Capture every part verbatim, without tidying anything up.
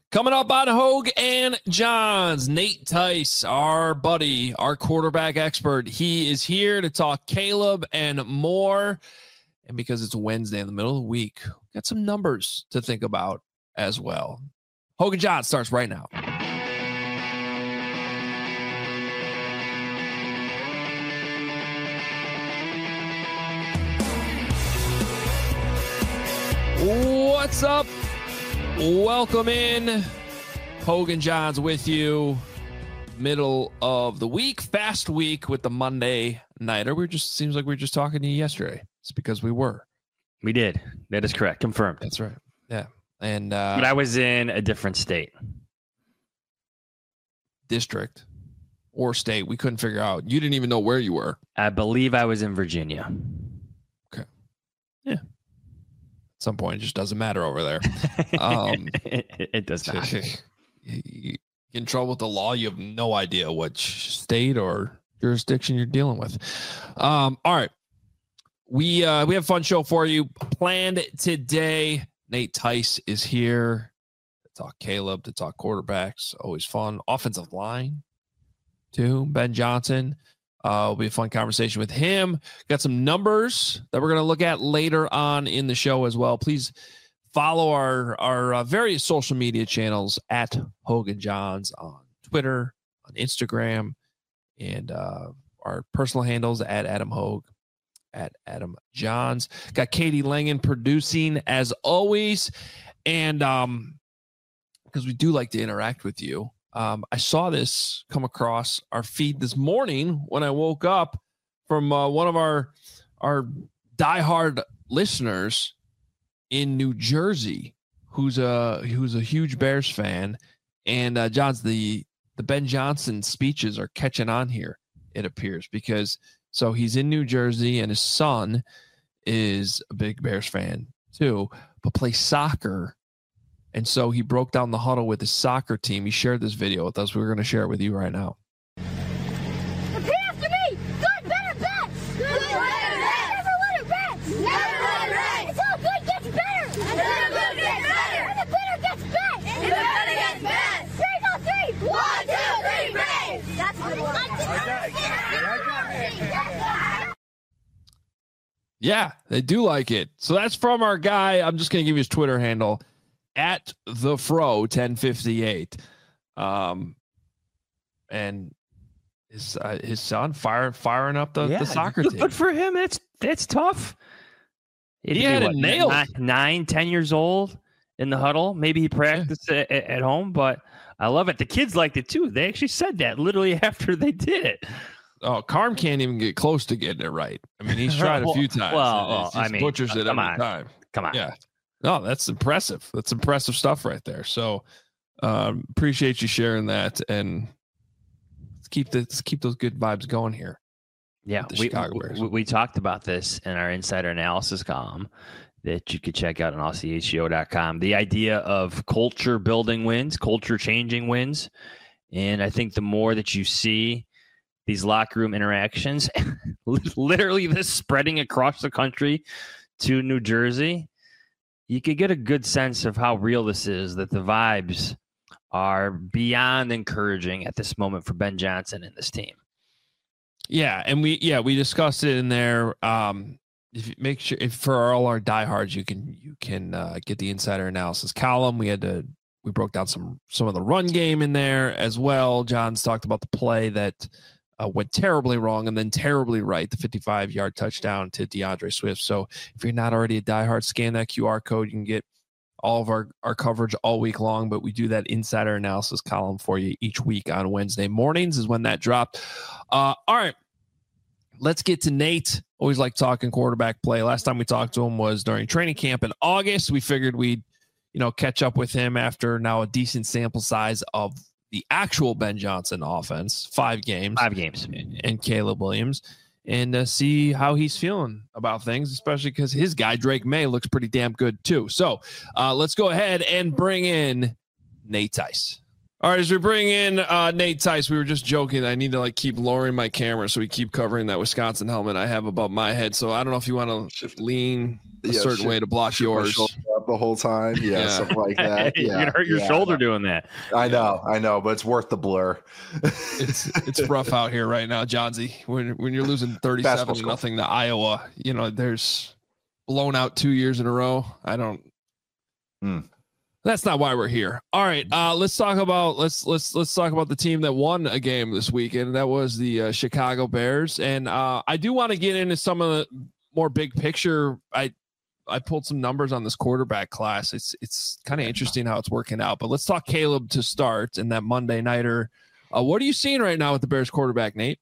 Coming up on Hogue and Johns, Nate Tice, our buddy, our quarterback expert. He is here to talk Caleb and more. And because it's Wednesday in the middle of the week, got some numbers to think about as well. Hogue and Johns starts right now. What's up? Welcome in. Hogue and Johns with you. Middle of the week, fast week with the Monday Nighter. We just seems like we were just talking to you yesterday. It's because we were. We did. That is correct. Confirmed. That's right. Yeah. And uh, but I was in a different state. District or state. We couldn't figure out. You didn't even know where you were. I believe I was in Virginia. Okay. Yeah. At some point, it just doesn't matter over there. Um, it, it does not. You get in trouble with the law, you have no idea what state or jurisdiction you're dealing with. Um, all right. We uh, we have a fun show for you planned today. Nate Tice is here to talk Caleb, to talk quarterbacks. Always fun. Offensive line, too. Ben Johnson. Uh, it'll be a fun conversation with him. Got some numbers that we're going to look at later on in the show as well. Please follow our, our uh, various social media channels at Hogue and Johns on Twitter, on Instagram, and uh, our personal handles at Adam Hogue, at Adam Johns. Got Katie Langen producing as always. And um, because we do like to interact with you. Um, I saw this come across our feed this morning when I woke up from uh, one of our our diehard listeners in New Jersey, who's a who's a huge Bears fan, and uh, John's the the Ben Johnson speeches are catching on here. It appears because so he's in New Jersey and his son is a big Bears fan too, but plays soccer. And so he broke down the huddle with his soccer team. He shared this video with us. We're going to share it with you right now. Repeat after me. Good, better, best. Good, better, best. Never let it rest. Never let it rest. Until good gets better. Until good gets better. And the better gets best. And the better gets best. Three, go three. One, two, three, Braves. That's what I want. Yeah, they do like it. So that's from our guy. I'm just going to give you his Twitter handle. At the Fro ten fifty-eight, um, and his uh, his son fire firing up the, yeah, the soccer team. Good for him. It's it's tough. It he had it nailed. Nine, nine, ten years old in the huddle. Maybe he practiced yeah. at, at home, but I love it. The kids liked it too. They actually said that literally after they did it. Oh, Carm can't even get close to getting it right. I mean, he's tried a few times. Well, well I mean, butchers it come every on. time. Come on. Yeah. No, that's impressive. That's impressive stuff right there. So um, appreciate you sharing that, and let's keep the, let's keep those good vibes going here. Yeah, we, we, we talked about this in our insider analysis column that you could check out on all c h g o dot com. The idea of culture building wins, culture changing wins, and I think the more that you see these locker room interactions, literally this spreading across the country to New Jersey, you could get a good sense of how real this is, that the vibes are beyond encouraging at this moment for Ben Johnson and this team. Yeah, and we yeah, we discussed it in there. Um, if you make sure if for all our diehards, you can you can uh, get the insider analysis column. We had to we broke down some some of the run game in there as well. John's talked about the play that Uh, went terribly wrong and then terribly right, the fifty-five-yard touchdown to DeAndre Swift. So if you're not already a diehard, scan that Q R code. You can get all of our, our coverage all week long, but we do that insider analysis column for you each week on Wednesday mornings is when that dropped. Uh, all right, let's get to Nate. Always like talking quarterback play. Last time we talked to him was during training camp in August. We figured we'd, you know, catch up with him after now a decent sample size of the actual Ben Johnson offense, five games, five games, and Caleb Williams, and uh, see how he's feeling about things, especially because his guy Drake May looks pretty damn good too. So uh, let's go ahead and bring in Nate Tice. All right, as we bring in uh, Nate Tice, we were just joking. I need to like keep lowering my camera so we keep covering that Wisconsin helmet I have above my head. So I don't know if you want to lean a yeah, certain shit. way to block Shoot yours. Up the whole time. Yeah, yeah. Something like that. Yeah, you're gonna hurt your yeah, shoulder doing that. I know, I know, but it's worth the blur. it's it's rough out here right now, Johnsy. When when you're losing thirty-seven to nothing to Iowa, you know, there's blown out two years in a row. I don't. Hmm. That's not why we're here. All right, uh, let's talk about let's let's let's talk about the team that won a game this weekend. That was the uh, Chicago Bears, and uh, I do want to get into some of the more big picture. I I pulled some numbers on this quarterback class. It's it's kind of interesting how it's working out. But let's talk Caleb to start and that Monday nighter. Uh, what are you seeing right now with the Bears quarterback, Nate?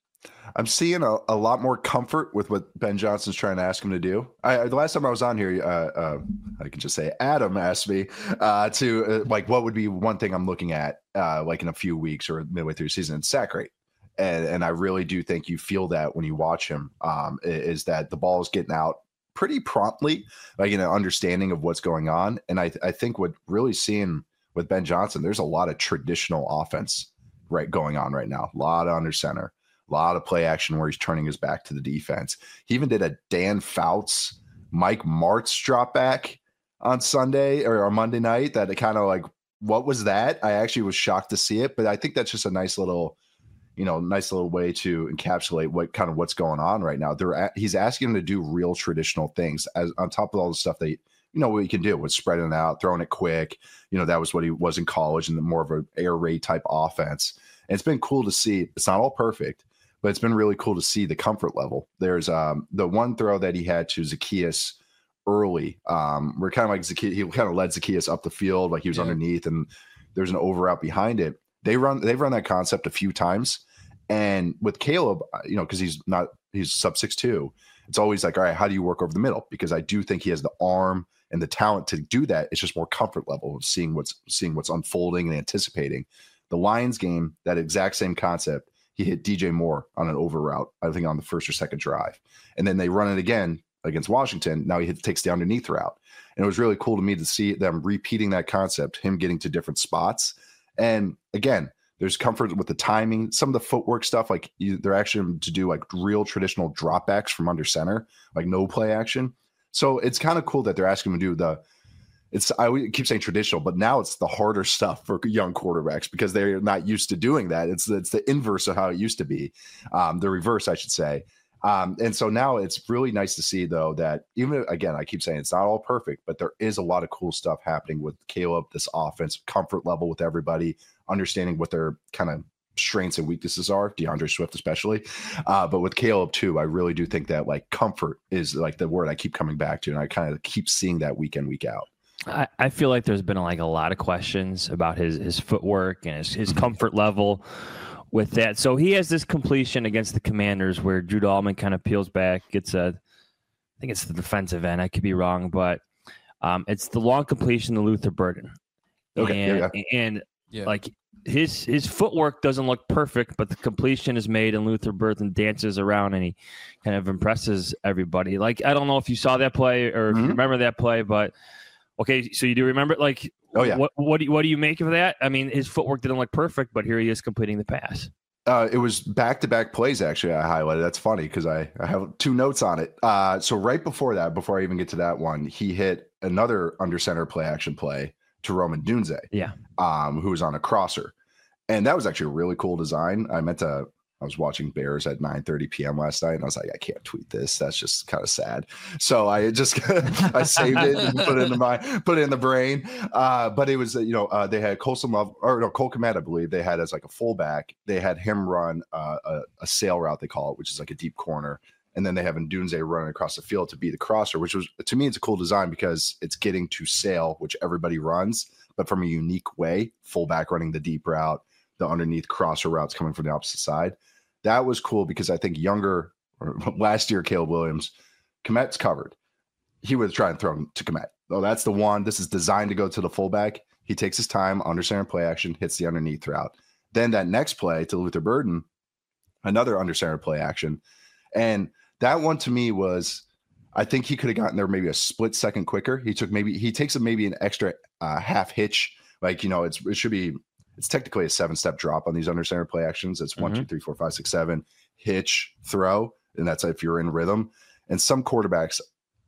I'm seeing a, a lot more comfort with what Ben Johnson's trying to ask him to do. I, the last time I was on here, uh, uh, I can just say Adam asked me uh, to uh, like, what would be one thing I'm looking at uh, like in a few weeks or midway through the season? It's sack rate. And, and I really do think you feel that when you watch him um, is that the ball is getting out pretty promptly, like in an understanding of what's going on. And I, I think what really seeing with Ben Johnson, there's a lot of traditional offense right going on right now. A lot of under center. A lot of play action where he's turning his back to the defense. He even did a Dan Fouts, Mike Martz drop back on Sunday or on Monday night that it kind of like, what was that? I actually was shocked to see it, but I think that's just a nice little, you know, nice little way to encapsulate what kind of what's going on right now. They're at, he's asking him to do real traditional things as on top of all the stuff that, you know, what he can do with spreading it out, throwing it quick. You know, that was what he was in college and the more of an air raid type offense. And it's been cool to see. It's not all perfect, but it's been really cool to see the comfort level. There's um, the one throw that he had to Zacchaeus early. Um, we're kind of like Zacchaeus, he kind of led Zacchaeus up the field, like he was yeah. underneath, and there's an over out behind it. They run, they've run that concept a few times, and with Caleb, you know, because he's not, he's sub six two. It's always like, all right, how do you work over the middle? Because I do think he has the arm and the talent to do that. It's just more comfort level of seeing what's seeing what's unfolding and anticipating. The Lions game, that exact same concept. He hit D J Moore on an over route, I think on the first or second drive. And then they run it again against Washington. Now he hit, takes the underneath route. And it was really cool to me to see them repeating that concept, him getting to different spots. And again, there's comfort with the timing, some of the footwork stuff, like you, they're actually to do like real traditional dropbacks from under center, like no play action. So it's kind of cool that they're asking him to do the, It's I keep saying traditional, but now it's the harder stuff for young quarterbacks because they're not used to doing that. It's it's the inverse of how it used to be, um, the reverse, I should say. Um, and so now it's really nice to see, though, that even again, I keep saying it's not all perfect, but there is a lot of cool stuff happening with Caleb, this offense, comfort level with everybody, understanding what their kind of strengths and weaknesses are, DeAndre Swift especially. Uh, but with Caleb, too, I really do think that like comfort is like the word I keep coming back to. And I kind of keep seeing that week in, week out. I, I feel like there's been like a lot of questions about his his footwork and his, his comfort level with that. So he has this completion against the Commanders where Drew Dahlman kind of peels back, gets a, I think it's the defensive end. I could be wrong, but um, it's the long completion to Luther Burden. Okay, and, yeah, yeah. and yeah. like his his footwork doesn't look perfect, but the completion is made and Luther Burden dances around and he kind of impresses everybody. Like, I don't know if you saw that play or if mm-hmm. you remember that play, but okay, so you do remember it? Like, oh yeah. What what do you, what do you make of that? I mean, his footwork didn't look perfect, but here he is completing the pass. Uh, it was back-to-back plays, actually, I highlighted. That's funny because I, I have two notes on it. Uh, so right before that, before I even get to that one, he hit another under-center play-action play to Roman Dunze, yeah, um, who was on a crosser. And that was actually a really cool design. I meant to – I was watching Bears at nine thirty p.m. last night, and I was like, I can't tweet this. That's just kind of sad. So I just I saved it and put it in my put it in the brain. Uh, but it was, you know, uh, they had Colson Love or no Cole Kmet, I believe they had as like a fullback. They had him run uh, a, a sail route, they call it, which is like a deep corner, and then they have Ndunze running across the field to be the crosser, which was to me it's a cool design because it's getting to sail, which everybody runs, but from a unique way. Fullback running the deep route, the underneath crosser routes coming from the opposite side. That was cool because I think younger or last year, Caleb Williams, Kmet's covered. He would try and throw him to Kmet. Oh, that's the one. This is designed to go to the fullback. He takes his time, under center play action, hits the underneath route. Then that next play to Luther Burden, another under center play action. And that one to me was, I think he could have gotten there maybe a split second quicker. He took maybe, he takes a, maybe an extra uh, half hitch. Like, you know, it's it should be, it's technically a seven-step drop on these under center play actions. It's one, mm-hmm. two, three, four, five, six, seven, hitch, throw, and that's if you're in rhythm. And some quarterbacks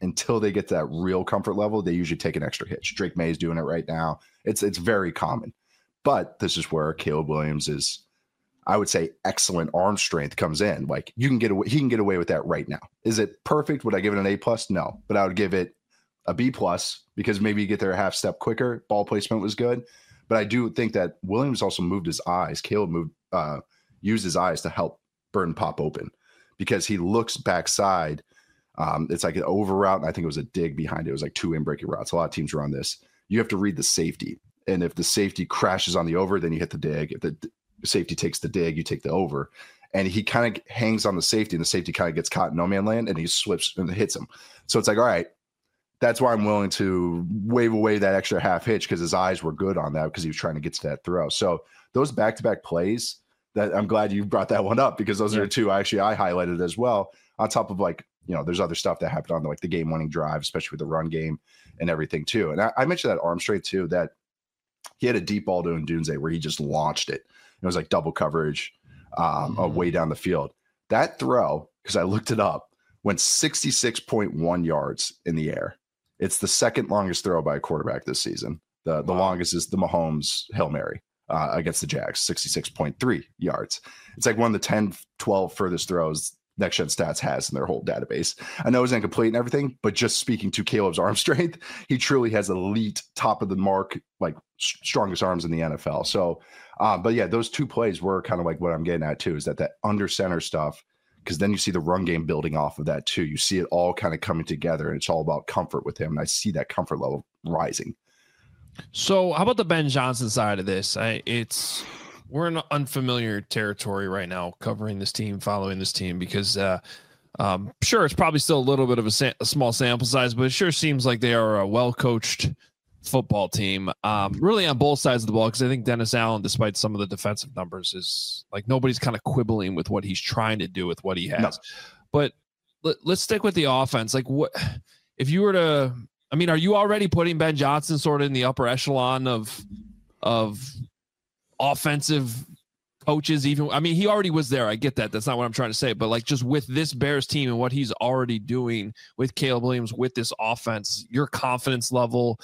until they get to that real comfort level, they usually take an extra hitch. Drake May is doing it right now. It's it's very common. But this is where Caleb Williams is, I would say, excellent arm strength comes in. Like you can get away, he can get away with that right now. Is it perfect? Would I give it an A plus? No, but I would give it a B plus because maybe you get there a half step quicker. Ball placement was good, but I do think that Williams also moved his eyes. Caleb moved, uh, used his eyes to help Burton pop open because he looks backside. Um, it's like an over route, and I think it was a dig behind it. It was like two in breaking routes. A lot of teams run this. You have to read the safety. And if the safety crashes on the over, then you hit the dig. If the safety takes the dig, you take the over. And he kind of hangs on the safety, and the safety kind of gets caught in no man land, and he slips and hits him. So it's like, all right, that's why I'm willing to wave away that extra half hitch because his eyes were good on that because he was trying to get to that throw. So those back-to-back plays, that I'm glad you brought that one up because those yeah. are two actually I highlighted as well. On top of like, you know, there's other stuff that happened on the, like the game-winning drive, especially with the run game and everything too. And I, I mentioned that arm strength too, that he had a deep ball to Ndunze where he just launched it. It was like double coverage um, mm-hmm. way down the field. That throw, because I looked it up, went sixty-six point one yards in the air. It's the second longest throw by a quarterback this season. The the wow. longest is the Mahomes Hail Mary uh, against the Jags, sixty-six point three yards. It's like one of the ten, twelve furthest throws Next Gen Stats has in their whole database. I know it's incomplete and everything, but just speaking to Caleb's arm strength, he truly has elite, top of the mark, like strongest arms in the N F L. So, uh, but yeah, those two plays were kind of like what I'm getting at too, is that that under center stuff, because then you see the run game building off of that too. You see it all kind of coming together, and it's all about comfort with him. And I see that comfort level rising. So how about the Ben Johnson side of this? I, it's we're in unfamiliar territory right now, covering this team, following this team, because uh, um, sure, it's probably still a little bit of a, sa- a small sample size, but it sure seems like they are a well-coached football team, um, really on both sides of the ball, because I think Dennis Allen, despite some of the defensive numbers, is like nobody's kind of quibbling with what he's trying to do with what he has. No. But let, let's stick with the offense. Like, what if you were to? I mean, are you already putting Ben Johnson sort of in the upper echelon of of offensive coaches? Even, I mean, he already was there. I get that. That's not what I'm trying to say. But like, just with this Bears team and what he's already doing with Caleb Williams with this offense, your confidence level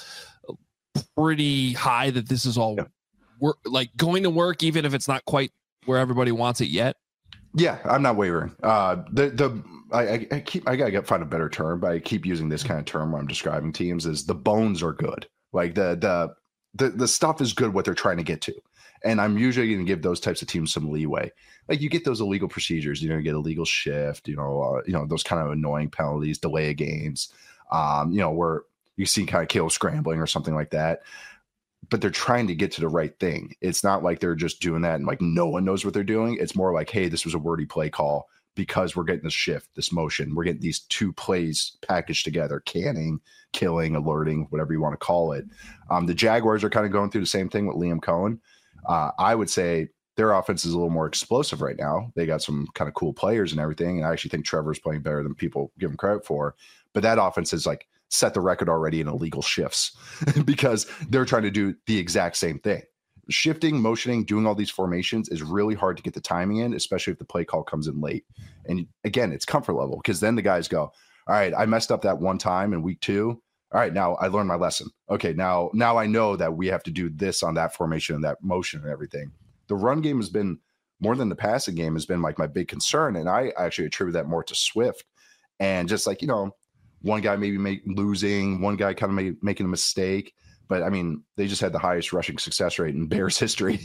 pretty high that this is all yeah. work, like going to work, even if it's not quite where everybody wants it yet. Yeah, I'm not wavering. Uh, the the I, I keep I gotta get, find a better term, but I keep using this kind of term when I'm describing teams. Is the bones are good, like the the the the stuff is good what they're trying to get to, and I'm usually going to give those types of teams some leeway. Like you get those illegal procedures, you know, you get illegal shift, you know, uh, you know those kind of annoying penalties, delay of games, um, you know, where you see kind of Caleb scrambling or something like that. But they're trying to get to the right thing. It's not like they're just doing that and like no one knows what they're doing. It's more like, hey, this was a wordy play call because we're getting this shift, this motion. We're getting these two plays packaged together, canning, killing, alerting, whatever you want to call it. Um, the Jaguars are kind of going through the same thing with Liam Cohen. Uh, I would say their offense is a little more explosive right now. They got some kind of cool players and everything. And I actually think Trevor's playing better than people give him credit for. But that offense is like, set the record already in illegal shifts because they're trying to do the exact same thing. Shifting, motioning, doing all these formations is really hard to get the timing in, especially if the play call comes in late. And again, it's comfort level because then the guys go, all right, I messed up that one time in week two. All right, now I learned my lesson. Okay, now, now I know that we have to do this on that formation and that motion and everything. The run game has been more than the passing game has been like my big concern. And I actually attribute that more to Swift and just like, you know, one guy maybe make, losing, one guy kind of make, making a mistake. But, I mean, they just had the highest rushing success rate in Bears history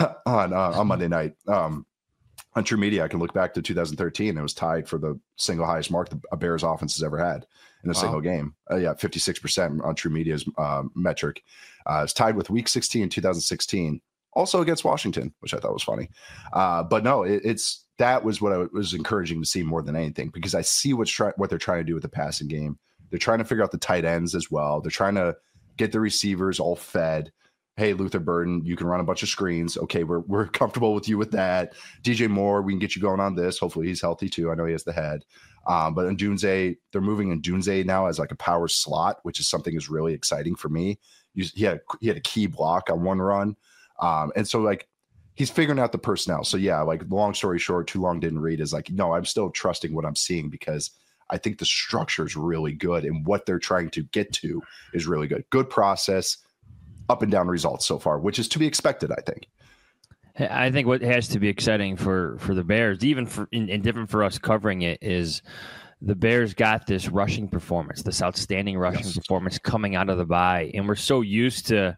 on uh, on Monday night. Um, on True Media, I can look back to two thousand thirteen. It was tied for the single highest mark a Bears offense has ever had in a wow. single game. Uh, yeah, fifty-six percent on True Media's uh, metric. Uh, it's tied with week sixteen in two thousand sixteen, also against Washington, which I thought was funny. Uh, but, no, it, it's – that was what I was encouraging to see more than anything because I see what's try- what they're trying to do with the passing game. They're trying to figure out the tight ends as well. They're trying to get the receivers all fed. Hey, Luther Burden, you can run a bunch of screens. Okay, we're we're comfortable with you with that. D J Moore, we can get you going on this. Hopefully he's healthy too. I know he has the head. Um, but Ndunze, they're moving Ndunze now as like a power slot, which is something is really exciting for me. He had, he had a key block on one run. Um, and so like, he's figuring out the personnel. So yeah, like long story short, too long didn't read is like, no, I'm still trusting what I'm seeing because I think the structure is really good, and what they're trying to get to is really good. Good process, up and down results so far, which is to be expected, I think. I think what has to be exciting for, for the Bears, even for and, and different for us covering it, is the Bears got this rushing performance, this outstanding rushing yes. performance coming out of the bye, and we're so used to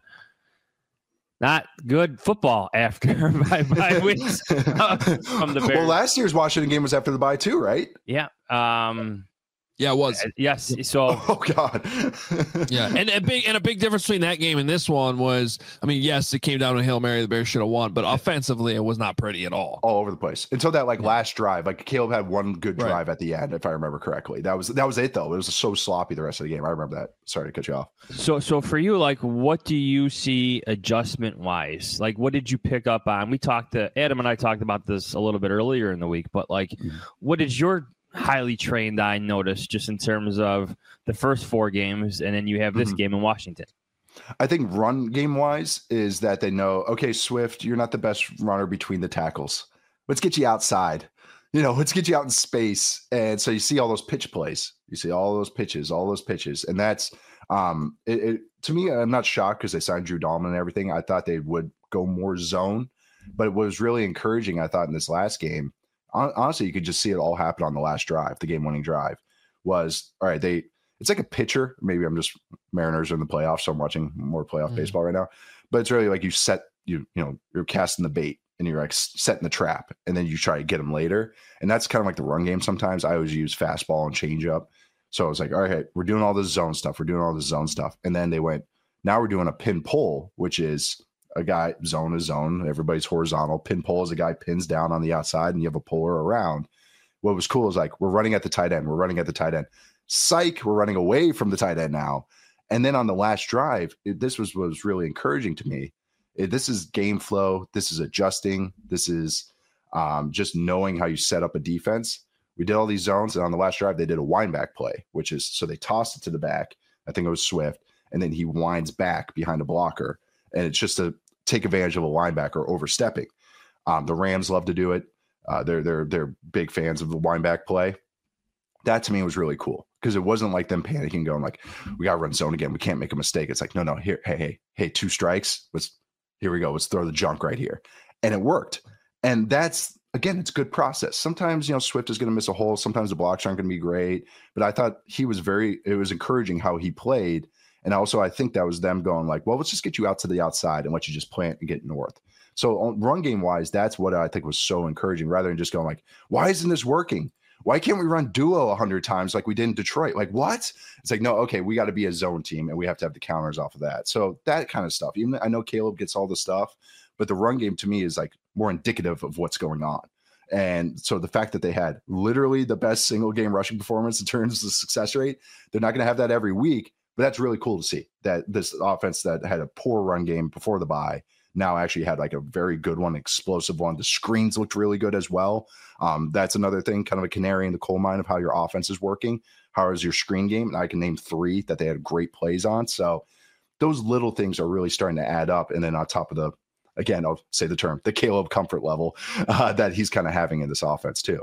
not good football after bye bye weeks from the Bears. Well, last year's Washington game was after the bye too, right? Yeah. Um, Yeah, it was. Yes. So, oh god. yeah, and a big and a big difference between that game and this one was, I mean, yes, it came down to Hail Mary. The Bears should have won, but offensively, it was not pretty at all. All over the place until that like yeah. last drive. Like Caleb had one good drive right. at the end, if I remember correctly. That was that was it though. It was so sloppy the rest of the game. I remember that. Sorry to cut you off. So, so for you, like, what do you see adjustment wise? Like, what did you pick up on? We talked to Adam and I talked about this a little bit earlier in the week, but like, mm-hmm. what did your highly trained eye notice just in terms of the first four games, and then you have this mm-hmm. game in Washington? I think run game wise is that they know, okay, Swift, you're not the best runner between the tackles. Let's get you outside. You know, let's get you out in space. And so you see all those pitch plays. You see all those pitches, all those pitches. And that's, um, it, it to me, I'm not shocked because they signed Drew Dalman and everything. I thought they would go more zone, but what was really encouraging, I thought, in this last game, honestly, you could just see it all happen on the last drive, the game-winning drive, was, all right, they it's like a pitcher. Maybe I'm just Mariners are in the playoffs, so I'm watching more playoff mm. baseball right now. But it's really like you set, you you know, you're casting the bait and you're like setting the trap, and then you try to get them later. And that's kind of like the run game sometimes. I always use fastball and changeup. So I was like, all right, we're doing all this zone stuff. We're doing all this zone stuff. And then they went, now we're doing a pin pull, which is a guy, zone is zone. Everybody's horizontal. Pin pull is a guy pins down on the outside and you have a puller around. What was cool is like, we're running at the tight end. We're running at the tight end. Psych, we're running away from the tight end now. And then on the last drive, it, this was was really encouraging to me. It, this is game flow. This is adjusting. This is um, just knowing how you set up a defense. We did all these zones, and on the last drive, they did a wind back play, which is, so they tossed it to the back. I think it was Swift. And then he winds back behind a blocker. And it's just a, take advantage of a linebacker overstepping. Um, the Rams love to do it. Uh, they're they're they're big fans of the wind back play. That to me was really cool because it wasn't like them panicking, going like, "We got to run zone again. We can't make a mistake." It's like, no, no, here, hey, hey, hey, two strikes. Let's here we go. Let's throw the junk right here, and it worked. And that's again, it's good process. Sometimes you know Swift is going to miss a hole. Sometimes the blocks aren't going to be great. But I thought he was very. It was encouraging how he played. And also, I think that was them going like, well, let's just get you out to the outside and let you just plant and get north. So on run game wise, that's what I think was so encouraging rather than just going like, why isn't this working? Why can't we run duo a hundred times like we did in Detroit? Like what? It's like, no, okay, we got to be a zone team and we have to have the counters off of that. So that kind of stuff. Even I know Caleb gets all the stuff, but the run game to me is like more indicative of what's going on. And so the fact that they had literally the best single game rushing performance in terms of success rate, they're not going to have that every week. But that's really cool to see that this offense that had a poor run game before the bye now actually had like a very good one, explosive one. The screens looked really good as well. Um, that's another thing, kind of a canary in the coal mine of how your offense is working. How is your screen game? And I can name three that they had great plays on. So those little things are really starting to add up. And then on top of the, again, I'll say the term, the Caleb comfort level uh, that he's kind of having in this offense too.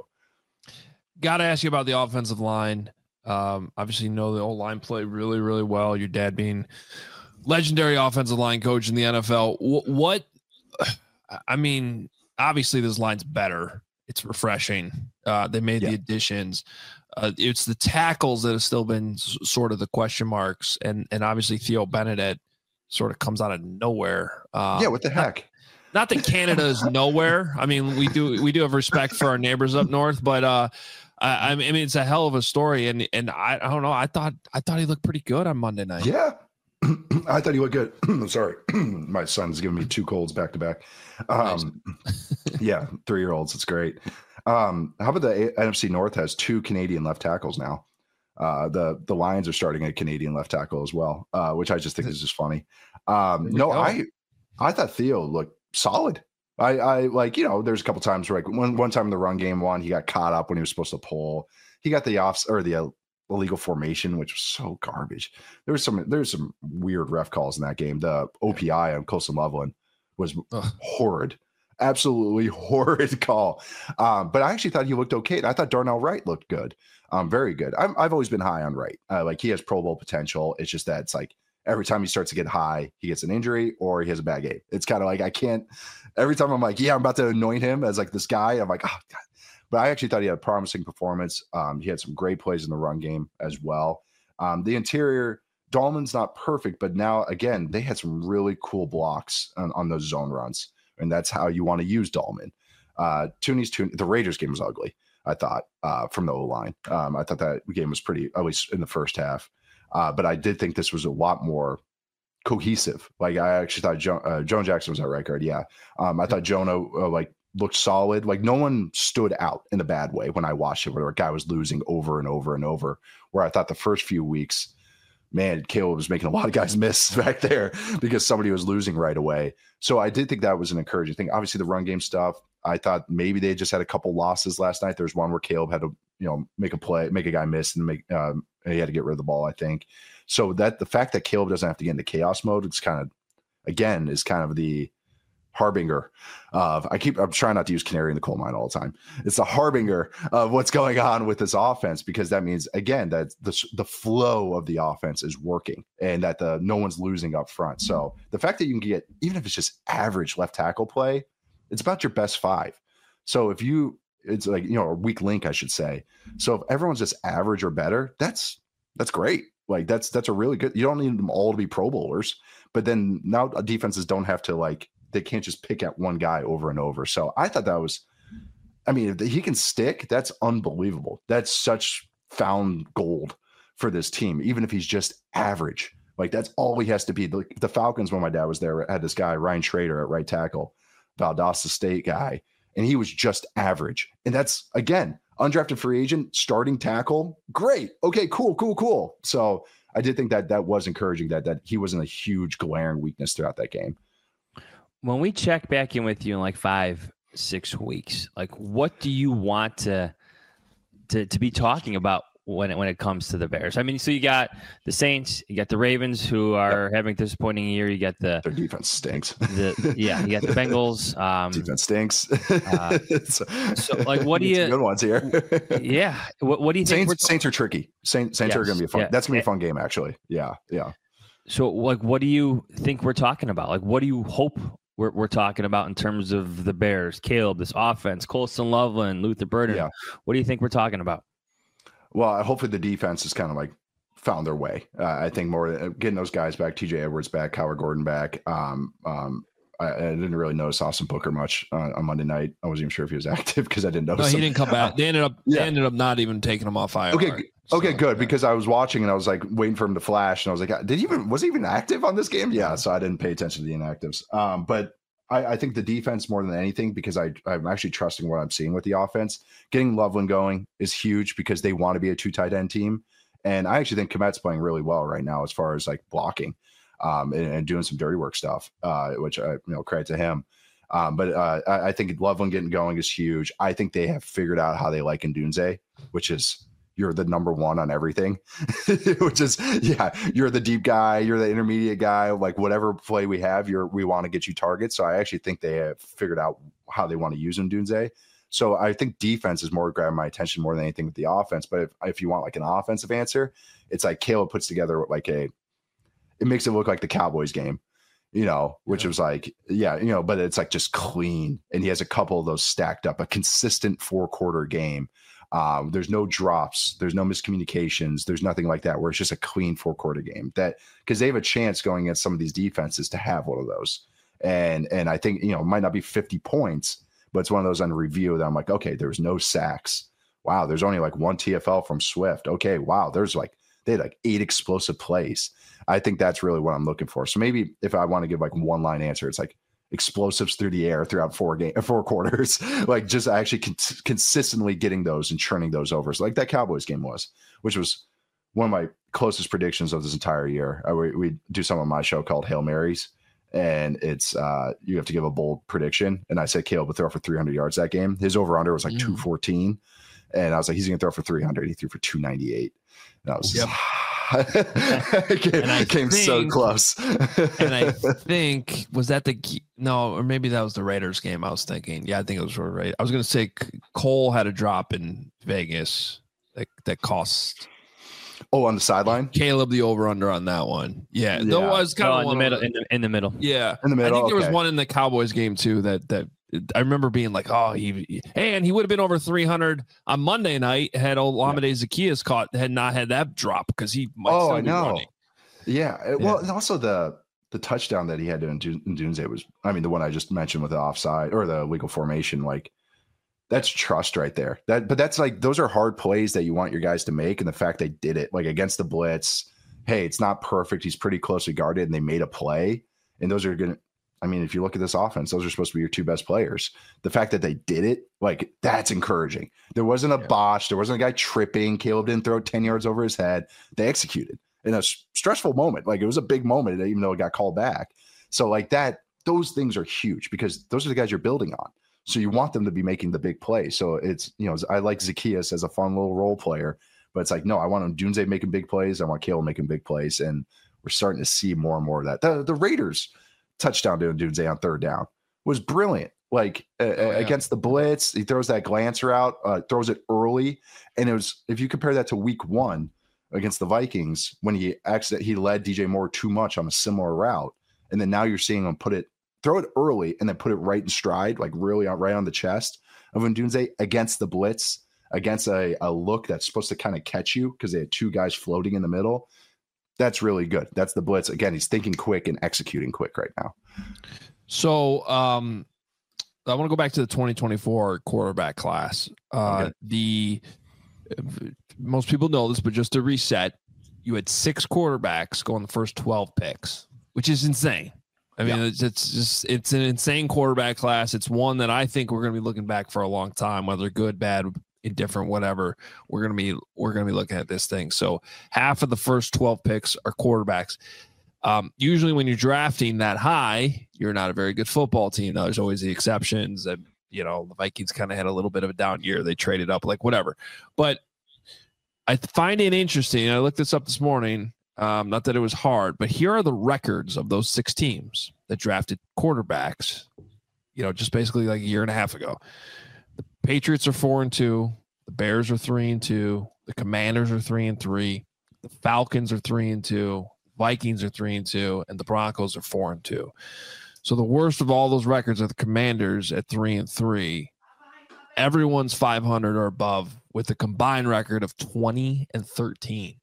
Got to ask you about the offensive line. Um, obviously, you know the old line play really, really well. Your dad being legendary offensive line coach in the N F L. What, what I mean, obviously, this line's better. It's refreshing. Uh, they made yeah. the additions. Uh, it's the tackles that have still been s- sort of the question marks, and and obviously Theo Benedict sort of comes out of nowhere. Um, yeah, what the heck? Not, not that Canada is nowhere. I mean, we do we do have respect for our neighbors up north, but. Uh, I, I mean, it's a hell of a story, and and I, I don't know. I thought I thought he looked pretty good on Monday night. Yeah, I thought he looked good. I'm sorry, my son's giving me two colds back to back. Um, nice. Yeah, three year olds. It's great. Um, how about the N F C North has two Canadian left tackles now? Uh, the the Lions are starting a Canadian left tackle as well, uh, which I just think is just funny. Um, no, go. I I thought Theo looked solid. I, I like, you know, there's a couple times where like one, one time in the run game one, he got caught up when he was supposed to pull. He got the off or the uh, illegal formation, which was so garbage. There was some, there's some weird ref calls in that game. The O P I on Colson Loveland was Ugh. horrid. Absolutely horrid call. Um, but I actually thought he looked okay. I thought Darnell Wright looked good. Um, very good. I'm, I've always been high on Wright. Uh, like he has Pro Bowl potential. It's just that it's like every time he starts to get high, he gets an injury or he has a bad game. It's kind of like I can't. Every time I'm like, yeah, I'm about to anoint him as like this guy. I'm like, oh God. But I actually thought he had a promising performance. Um, he had some great plays in the run game as well. Um, the interior, Dahlman's not perfect, but now again, they had some really cool blocks on, on those zone runs. And that's how you want to use Dahlman. Uh, Tooney's Tooney, the Raiders game was ugly, I thought, uh, from the O-line. Um, I thought that game was pretty, at least in the first half. Uh, but I did think this was a lot more cohesive. Like I actually thought jo- uh, Joan Jackson was at right guard. Yeah. Um, I thought Jonah uh, like looked solid. Like no one stood out in a bad way when I watched it, where a guy was losing over and over and over, where I thought the first few weeks, man, Caleb was making a lot of guys miss back there because somebody was losing right away. So I did think that was an encouraging thing. Obviously, the run game stuff, I thought maybe they just had a couple losses last night. There's one where Caleb had to, you know, make a play, make a guy miss, and make um, he had to get rid of the ball, I think. So that the fact that Caleb doesn't have to get into chaos mode, it's kind of, again, is kind of the harbinger of, I keep, I'm trying not to use canary in the coal mine all the time. It's a harbinger of what's going on with this offense, because that means, again, that the, the flow of the offense is working and that the no one's losing up front. So the fact that you can get, even if it's just average left tackle play, it's about your best five. So if you, it's like, you know, a weak link, I should say. So if everyone's just average or better, that's, that's great. Like that's, that's a really good, you don't need them all to be Pro Bowlers, but then now defenses don't have to like, they can't just pick at one guy over and over. So I thought that was, I mean, if he can stick, that's unbelievable. That's such found gold for this team, even if he's just average. Like that's all he has to be. The, the Falcons, when my dad was there, had this guy, Ryan Schrader at right tackle, Valdosta State guy, and he was just average. And that's, again, undrafted free agent, starting tackle. Great. Okay, cool, cool, cool. So I did think that that was encouraging, that that he wasn't a huge glaring weakness throughout that game. When we check back in with you in like five, six weeks, like what do you want to to to be talking about when it when it comes to the Bears? I mean, so you got the Saints, you got the Ravens, who are yep. having a disappointing year. You got the their defense stinks. The, yeah, you got the Bengals. Um, defense stinks. uh, so, so, like, what do you? Good ones here. yeah. What, what do you think? Saints, Saints are tricky. Saints, Saints yes, are going to be a fun. Yeah. That's going to be a fun game, actually. Yeah, yeah. So, like, what do you think we're talking about? Like, what do you hope We're we're talking about in terms of the Bears, Caleb, this offense, Colston Loveland, Luther Burden? Yeah. What do you think we're talking about? Well, hopefully the defense has kind of like found their way. Uh, I think more getting those guys back, T J Edwards back, Howard Gordon back. Um, um, I, I didn't really notice Austin Booker much uh, on Monday night. I wasn't even sure if he was active because I didn't notice. No, he him. didn't come back. They ended up yeah. they ended up not even taking him off I R. Okay, so, okay, good, yeah. because I was watching and I was like waiting for him to flash, and I was like, did he even was he even active on this game? Yeah, so I didn't pay attention to the inactives. Um, but I, I think the defense more than anything, because I, I'm actually trusting what I'm seeing with the offense. Getting Loveland going is huge because they want to be a two tight end team. And I actually think Kmet's playing really well right now as far as like blocking um, and, and doing some dirty work stuff, uh, which I, you know, credit to him. Um, but uh, I, I think Loveland getting going is huge. I think they have figured out how they like Ndunze, which is you're the number one on everything, which is, yeah, you're the deep guy, you're the intermediate guy, like whatever play we have, you're, we want to get you targets. So I actually think they have figured out how they want to use Ndunze. So I think defense is more grabbing my attention more than anything with the offense. But if, if you want like an offensive answer, it's like Caleb puts together like a, it makes it look like the Cowboys game, you know, which yeah. was like, yeah, you know, but it's like just clean. And he has a couple of those stacked up, a consistent four quarter game. Um, there's no drops, there's no miscommunications, there's nothing like that, where it's just a clean four quarter game, that because they have a chance going against some of these defenses to have one of those. And, and I think, you know, it might not be fifty points, but it's one of those on review that I'm like, okay, there's no sacks. Wow. There's only like one T F L from Swift. Okay. Wow. There's like, they had like eight explosive plays. I think that's really what I'm looking for. So maybe if I want to give like one line answer, it's like explosives through the air throughout four game, four quarters, like just actually con- consistently getting those and churning those over. So like that Cowboys game was, which was one of my closest predictions of this entire year. I, we, we do some on my show called Hail Marys, and it's uh, you have to give a bold prediction. And I said Caleb would throw for three hundred yards that game. His over under was like mm. two fourteen. And I was like, he's going to throw for three hundred. He threw for two ninety-eight. And I was yep. came, and I came think, so close. And I think, was that the no, or maybe that was the Raiders game I was thinking. Yeah, I think it was right. I was going to say Cole had a drop in Vegas that, that cost. Oh, on the sideline? Caleb, the over-under on that one. Yeah, yeah. There was kind oh, of in the middle. In the, in the middle. Yeah. In the middle. I think there okay. was one in the Cowboys game, too, that that I remember being like, oh, he, he and he would have been over three hundred on Monday night had Olamide yeah. Zaccheaus caught, had not had that drop because he might oh, still I be know. running. Yeah. yeah. Well, and also the the touchdown that he had to Ndunze was, I mean, the one I just mentioned with the offside or the legal formation, like, that's trust right there. That, but that's like, those are hard plays that you want your guys to make. And the fact they did it, like against the blitz, hey, it's not perfect. He's pretty closely guarded and they made a play. And those are going to, I mean, if you look at this offense, those are supposed to be your two best players. The fact that they did it, like, that's encouraging. There wasn't a yeah. botch. There wasn't a guy tripping. Caleb didn't throw ten yards over his head. They executed in a stressful moment. Like, it was a big moment, even though it got called back. So like that, those things are huge because those are the guys you're building on. So you want them to be making the big play. So it's, you know, I like Zaccheaus as a fun little role player, but it's like, no, I want Ndunze making big plays. I want Caleb making big plays. And we're starting to see more and more of that. The, the Raiders touchdown to Ndunze on third down was brilliant. Like uh, oh, yeah. against the blitz, he throws that glance route, uh, throws it early. And it was, if you compare that to week one against the Vikings, when he actually, he led D J Moore too much on a similar route. And then now you're seeing him put it, throw it early and then put it right in stride, like really out right on the chest of Ndunze against the blitz, against a, a look that's supposed to kind of catch you because they had two guys floating in the middle. That's really good. That's the blitz. Again, he's thinking quick and executing quick right now. So um, I want to go back to the twenty twenty-four quarterback class. Uh, okay. The most people know this, but just to reset, you had six quarterbacks go in the first twelve picks, which is insane. I mean, yeah. it's, it's just, it's an insane quarterback class. It's one that I think we're going to be looking back for a long time, whether good, bad, indifferent, whatever. We're going to be, we're going to be looking at this thing. So half of the first twelve picks are quarterbacks. Um, usually when you're drafting that high, you're not a very good football team. Now, there's always the exceptions that, you know, the Vikings kind of had a little bit of a down year. They traded up, like whatever. But I find it interesting. I looked this up this morning. Um, not that it was hard, but here are the records of those six teams that drafted quarterbacks, you know, just basically like a year and a half ago. The Patriots are four and two. The Bears are three and two. The Commanders are three and three. The Falcons are three and two. Vikings are three and two. And the Broncos are four and two. So the worst of all those records are the Commanders at three and three. Everyone's five hundred or above with a combined record of twenty and thirteen.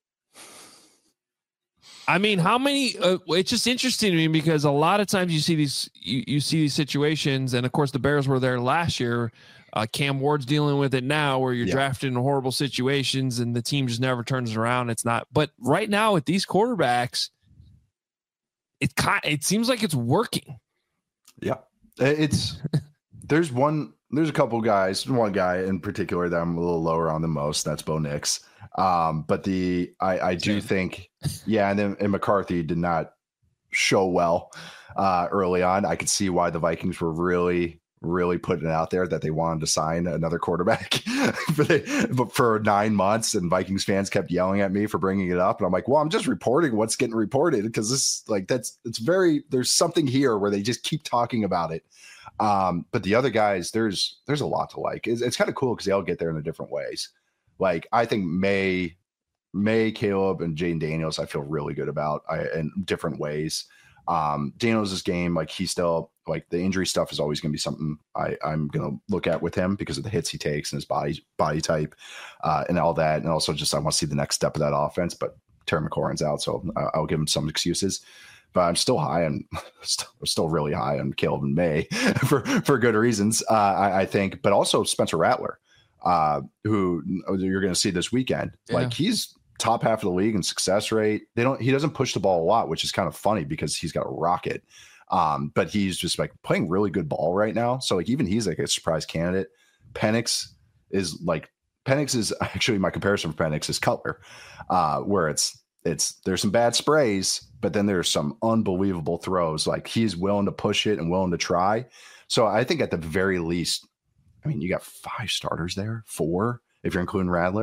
I mean, how many? Uh, it's just interesting to me because a lot of times you see these, you, you see these situations, and of course the Bears were there last year. Uh, Cam Ward's dealing with it now, where you're yeah. drafting in horrible situations, and the team just never turns around. It's not. But right now with these quarterbacks, it kind it seems like it's working. Yeah, it's there's one. There's a couple guys, one guy in particular that I'm a little lower on than most. That's Bo Nix. Um, but the I, I do think, yeah, and then and McCarthy did not show well uh, early on. I could see why the Vikings were really, really putting it out there that they wanted to sign another quarterback but, they, but for nine months, and Vikings fans kept yelling at me for bringing it up, and I'm like, well, I'm just reporting what's getting reported because this, like, that's it's very there's something here where they just keep talking about it. Um, but the other guys, there's there's a lot to like. It's, it's kind of cool because they all get there in the different ways. Like, I think May, May, Caleb, and Jayden Daniels, I feel really good about I, in different ways. Um, Daniels' game, like, he's still, like, the injury stuff is always going to be something I, I'm going to look at with him because of the hits he takes and his body body type uh, and all that. And also just I want to see the next step of that offense. But Terry McLaurin's out, so I'll give him some excuses. But I'm still high on, still, still really high on Caleb and May for, for good reasons, uh, I, I think. But also Spencer Rattler. Uh, who you're going to see this weekend. Yeah. Like, he's top half of the league in success rate. They don't, he doesn't push the ball a lot, which is kind of funny because he's got a rocket. Um, but he's just like playing really good ball right now. So like, even he's like a surprise candidate. Penix is like, Penix is actually my comparison for Penix is Cutler, uh, where it's, it's, there's some bad sprays, but then there's some unbelievable throws. Like, he's willing to push it and willing to try. So I think at the very least, I mean, you got five starters there, four, if you're including Rattler.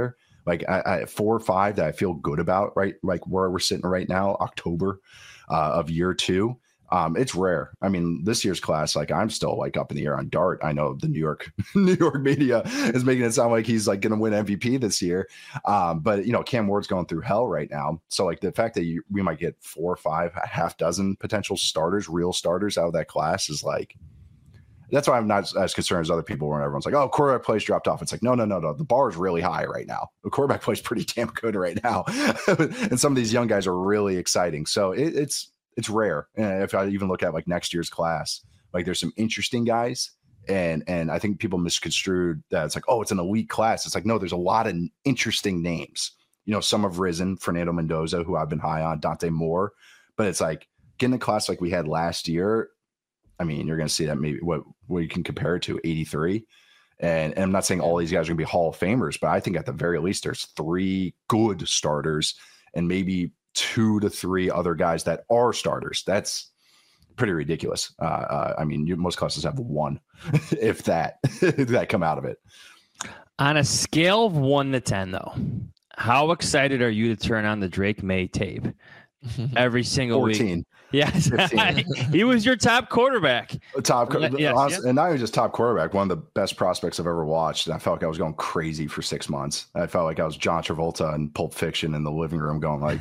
like I, I, four or five that I feel good about, right? Like where we're sitting right now, October uh, of year two. Um, it's rare. I mean, this year's class, like I'm still like up in the air on Dart. I know the New York, New York media is making it sound like he's like going to win M V P this year. Um, but you know, Cam Ward's going through hell right now. So like the fact that you, we might get four or five, a half dozen potential starters, real starters out of that class is like, that's why I'm not as concerned as other people when everyone's like, oh, quarterback plays dropped off. It's like, no, no, no, no. The bar is really high right now. The quarterback plays pretty damn good right now. And some of these young guys are really exciting. So it, it's, it's rare. And if I even look at like next year's class, like there's some interesting guys. And, and I think people misconstrued that it's like, oh, it's an elite class. It's like, no, there's a lot of interesting names. You know, some have risen, Fernando Mendoza, who I've been high on, Dante Moore, but it's like getting a class like we had last year. I mean, you're going to see that maybe what, what you can compare it to eighty-three. And, and I'm not saying all these guys are going to be Hall of Famers, but I think at the very least, there's three good starters and maybe two to three other guys that are starters. That's pretty ridiculous. Uh, uh, I mean, you, most classes have one, if that, if that come out of it. On a scale of one to ten, though, how excited are you to turn on the Drake May tape every single fourteen. Week? Yes, he was your top quarterback. Top, yes, honestly, yes. And not even just top quarterback, one of the best prospects I've ever watched. And I felt like I was going crazy for six months. I felt like I was John Travolta in Pulp Fiction in the living room, going like,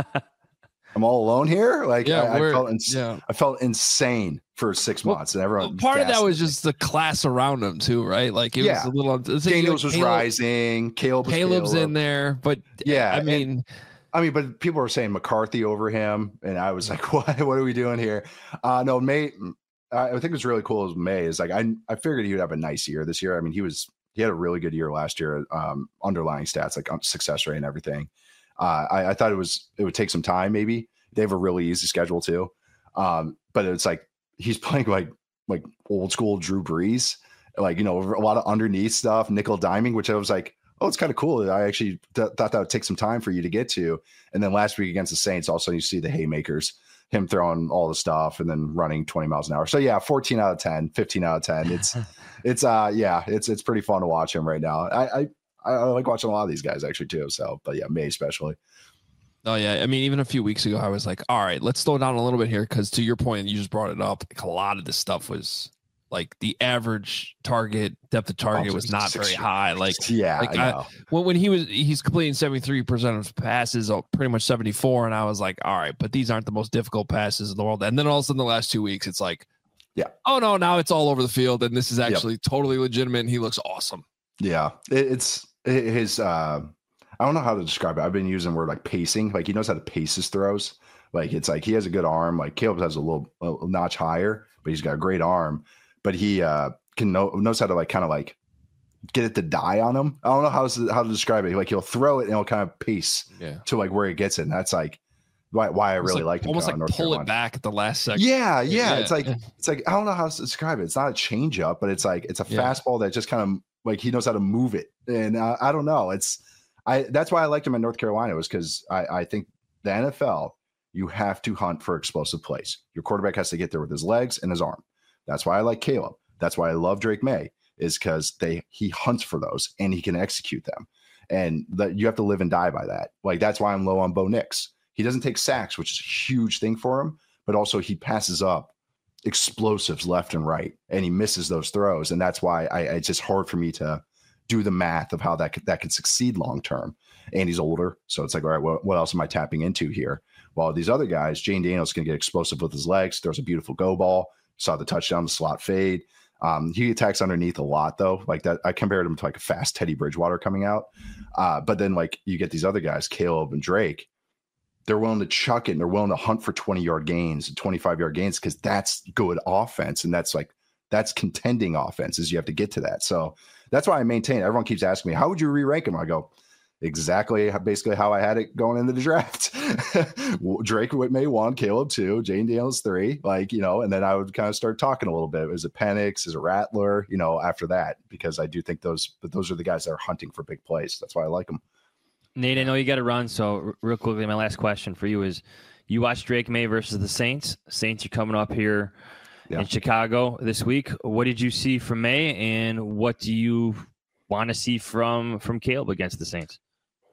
"I'm all alone here." Like, yeah, I, I felt, ins- yeah. I felt insane for six well, months, and everyone. Well, part of that was just the class around him too, right? Like it yeah. was a little. Daniels was Caleb, rising. Caleb was Caleb's Caleb. in there, but yeah, I mean. And, I mean, but people were saying McCarthy over him, and I was like, "What? What are we doing here?" Uh, no, May. I think what's really cool is May is like I. I figured he would have a nice year this year. I mean, he was he had a really good year last year. Um, underlying stats like success rate and everything. Uh, I, I thought it was it would take some time. Maybe they have a really easy schedule too, um, but it's like he's playing like like old school Drew Brees, like you know a lot of underneath stuff, nickel diming, which I was like. Oh, it's kind of cool. I actually th- thought that would take some time for you to get to. And then last week against the Saints, also you see the haymakers, him throwing all the stuff and then running twenty miles an hour. So yeah, fourteen out of ten, fifteen out of ten. It's, it's, uh, yeah, it's, it's pretty fun to watch him right now. I, I, I like watching a lot of these guys actually too. So, but yeah, May especially. Oh yeah. I mean, even a few weeks ago, I was like, all right, let's slow down a little bit here. Cause to your point, you just brought it up. Like a lot of this stuff was, like the average target depth of target was not very high. Like, yeah, like I I, when, when he was, he's completing seventy-three percent of passes, pretty much seventy-four. And I was like, all right, but these aren't the most difficult passes in the world. And then all of a sudden the last two weeks, it's like, yeah, oh no, now it's all over the field. And this is actually yep. totally legitimate. And he looks awesome. Yeah. It, it's his, uh, I don't know how to describe it. I've been using the word like pacing. Like he knows how to pace his throws. Like it's like, he has a good arm. Like Caleb has a little a notch higher, but he's got a great arm. But he uh, can know knows how to like kind of like get it to die on him. I don't know how to, how to describe it. Like he'll throw it and he'll kind of pace yeah. to like where he gets it. And that's like why why I really like, like him. Almost like North pull Carolina. it back at the last second. Yeah, yeah, yeah. It's like it's like I don't know how to describe it. It's not a change up, but it's like it's a yeah. fastball that just kind of like he knows how to move it. And uh, I don't know. It's I that's why I liked him in North Carolina was because I, I think the N F L you have to hunt for explosive plays. Your quarterback has to get there with his legs and his arm. That's why I like Caleb. That's why I love Drake May is because they he hunts for those and he can execute them. And that you have to live and die by that. Like that's why I'm low on Bo Nix. He doesn't take sacks, which is a huge thing for him, but also he passes up explosives left and right and he misses those throws. And that's why I, it's just hard for me to do the math of how that could, that could succeed long term. And he's older. So it's like, all right, what, what else am I tapping into here? While these other guys, Jane Daniels can get explosive with his legs, throws a beautiful go ball, saw the touchdown, the slot fade. Um, he attacks underneath a lot though. Like that, I compared him to like a fast Teddy Bridgewater coming out. Uh, but then like you get these other guys, Caleb and Drake, they're willing to chuck it and they're willing to hunt for twenty yard gains and twenty-five yard gains because that's good offense. And that's like, that's contending offense is you have to get to that. So that's why I maintain. Everyone keeps asking me, how would you re-rank him? I go, exactly basically how I had it going into the draft. Drake May one, Caleb two, Jane Daniels three, like, you know, and then I would kind of start talking a little bit. Is it Penix? Is it Rattler? You know, after that, because I do think those, but those are the guys that are hunting for big plays. That's why I like them. Nate, I know you got to run. So real quickly, my last question for you is you watched Drake May versus the Saints. Saints are coming up here yeah. in Chicago this week. What did you see from May and what do you want to see from, from Caleb against the Saints?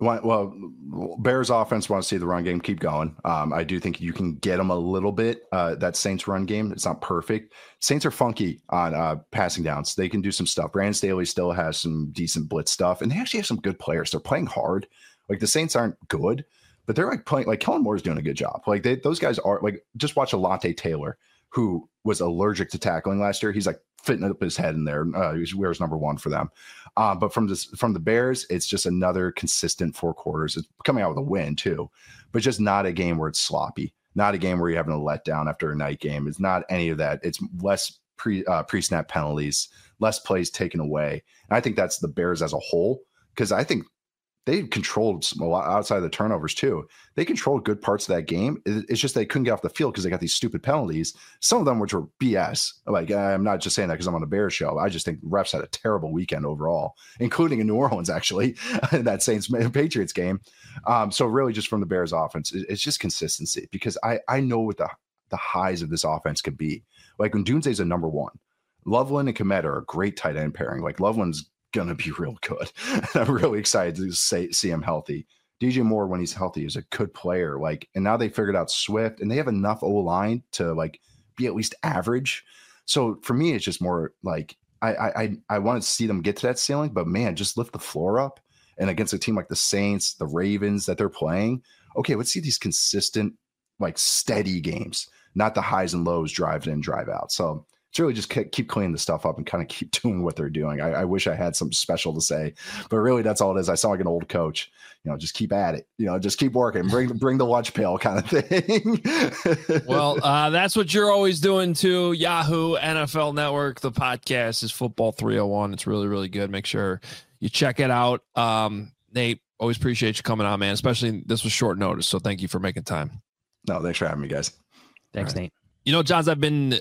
Well, Bears offense want to see the run game keep going. Um, I do think you can get them a little bit. Uh, that Saints run game, it's not perfect. Saints are funky on uh, passing downs. They can do some stuff. Brandon Staley still has some decent blitz stuff, and they actually have some good players. They're playing hard. Like the Saints aren't good, but they're like playing. Like Kellen Moore's doing a good job. Like they, those guys are like. Just watch Alontae Taylor, who was allergic to tackling last year. He's like fitting up his head in there. Uh, he wears number one for them. Uh, but from this, from the Bears, it's just another consistent four quarters. It's coming out with a win too, but just not a game where it's sloppy. Not a game where you're having a letdown after a night game. It's not any of that. It's less pre uh, pre snap penalties, less plays taken away. And I think that's the Bears as a whole, because I think they controlled some, a lot outside of the turnovers too. They controlled good parts of that game. It's just they couldn't get off the field because they got these stupid penalties. Some of them which were B S. Like I'm not just saying that because I'm on the Bears show. I just think refs had a terrible weekend overall, including in New Orleans actually, in that Saints Patriots game. Um, so really, just from the Bears offense, it's just consistency, because I I know what the the highs of this offense could be. Like when Dunze's a number one, Loveland and Kmet are a great tight end pairing. Like Loveland's gonna be real good. I'm really excited to say, see him healthy. D J Moore, when he's healthy, is a good player. Like, and now they figured out Swift, and they have enough O line to like be at least average. So for me, it's just more like I I I want to see them get to that ceiling, but man, just lift the floor up. And against a team like the Saints, the Ravens that they're playing, okay, let's see these consistent, like steady games, not the highs and lows, drive in, drive out. So it's really just keep cleaning the stuff up and kind of keep doing what they're doing. I, I wish I had something special to say, but really that's all it is. I sound like an old coach, you know, just keep at it, you know, just keep working, bring, bring the lunch pail kind of thing. Well, uh, that's what you're always doing too. Yahoo, N F L Network, the podcast is Football three oh one. It's really, really good. Make sure you check it out. Um, Nate, always appreciate you coming on, man, especially this was short notice. So thank you for making time. No, thanks for having me, guys. Thanks, right. Nate. You know, Johns, I've been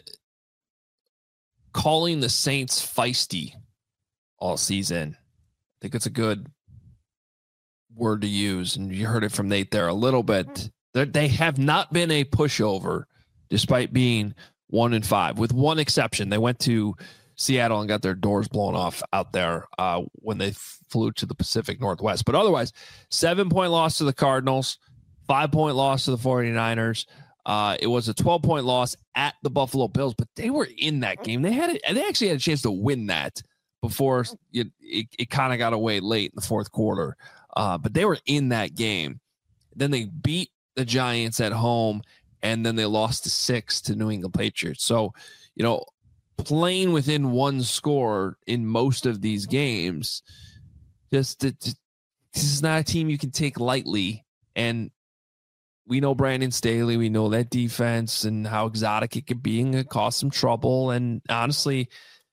calling the Saints feisty all season. I think it's a good word to use, and you heard it from Nate there a little bit. They're, they have not been a pushover despite being one and five, with one exception. They went to Seattle and got their doors blown off out there uh, when they flew to the Pacific Northwest. But otherwise, seven-point loss to the Cardinals, five-point loss to the 49ers. Uh, it was a twelve-point loss at the Buffalo Bills, but they were in that game. They had it, and they actually had a chance to win that before it, it, it kind of got away late in the fourth quarter. Uh, but they were in that game. Then they beat the Giants at home, and then they lost to six to New England Patriots. So, you know, playing within one score in most of these games, just it, this is not a team you can take lightly. And we know Brandon Staley. We know that defense and how exotic it could be and it cause some trouble. And honestly,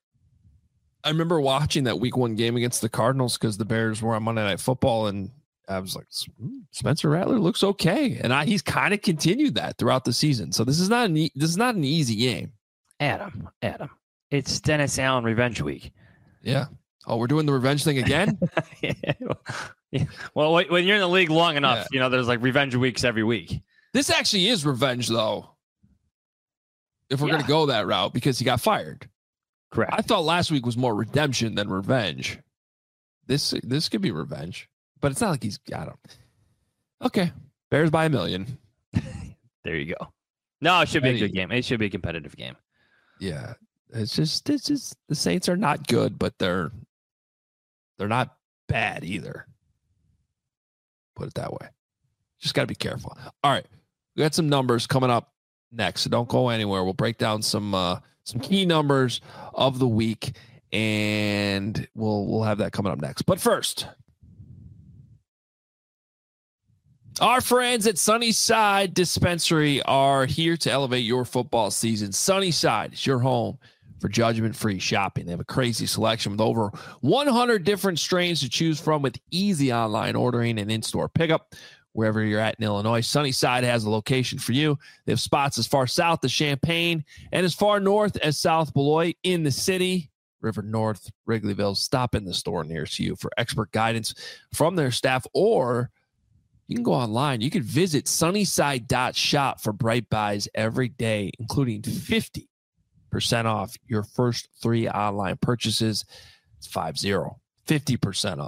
I remember watching that week one game against the Cardinals because the Bears were on Monday Night Football, and I was like, Spencer Rattler looks okay. And I, he's kind of continued that throughout the season. So this is not an, e- this is not an easy game. Adam, Adam, it's Dennis Allen revenge week. Yeah. Oh, we're doing the revenge thing again? yeah. Yeah. Well, when you're in the league long enough, yeah. you know, there's like revenge weeks every week. This actually is revenge, though, if we're yeah. going to go that route, because he got fired. Correct. I thought last week was more redemption than revenge. This this could be revenge, but it's not like he's got him. Okay. Bears by a million. There you go. No, it should be a good game. It should be a competitive game. Yeah. It's just, it's just the Saints are not good, but they're they're not bad either. Put it that way. Just got to be careful. All right. We got some numbers coming up next, so don't go anywhere. We'll break down some uh, some key numbers of the week, and we'll we'll have that coming up next. But first, our friends at Sunnyside Dispensary are here to elevate your football season. Sunnyside is your home for judgment-free shopping. They have a crazy selection with over one hundred different strains to choose from, with easy online ordering and in-store pickup wherever you're at in Illinois. Sunnyside has a location for you. They have spots as far south as Champaign and as far north as South Beloit in the city. River North, Wrigleyville. Stop in the store nearest you for expert guidance from their staff, or you can go online. You can visit sunnyside dot shop for bright buys every day, including fifty percent off your first three online purchases. It's five zero, fifty percent off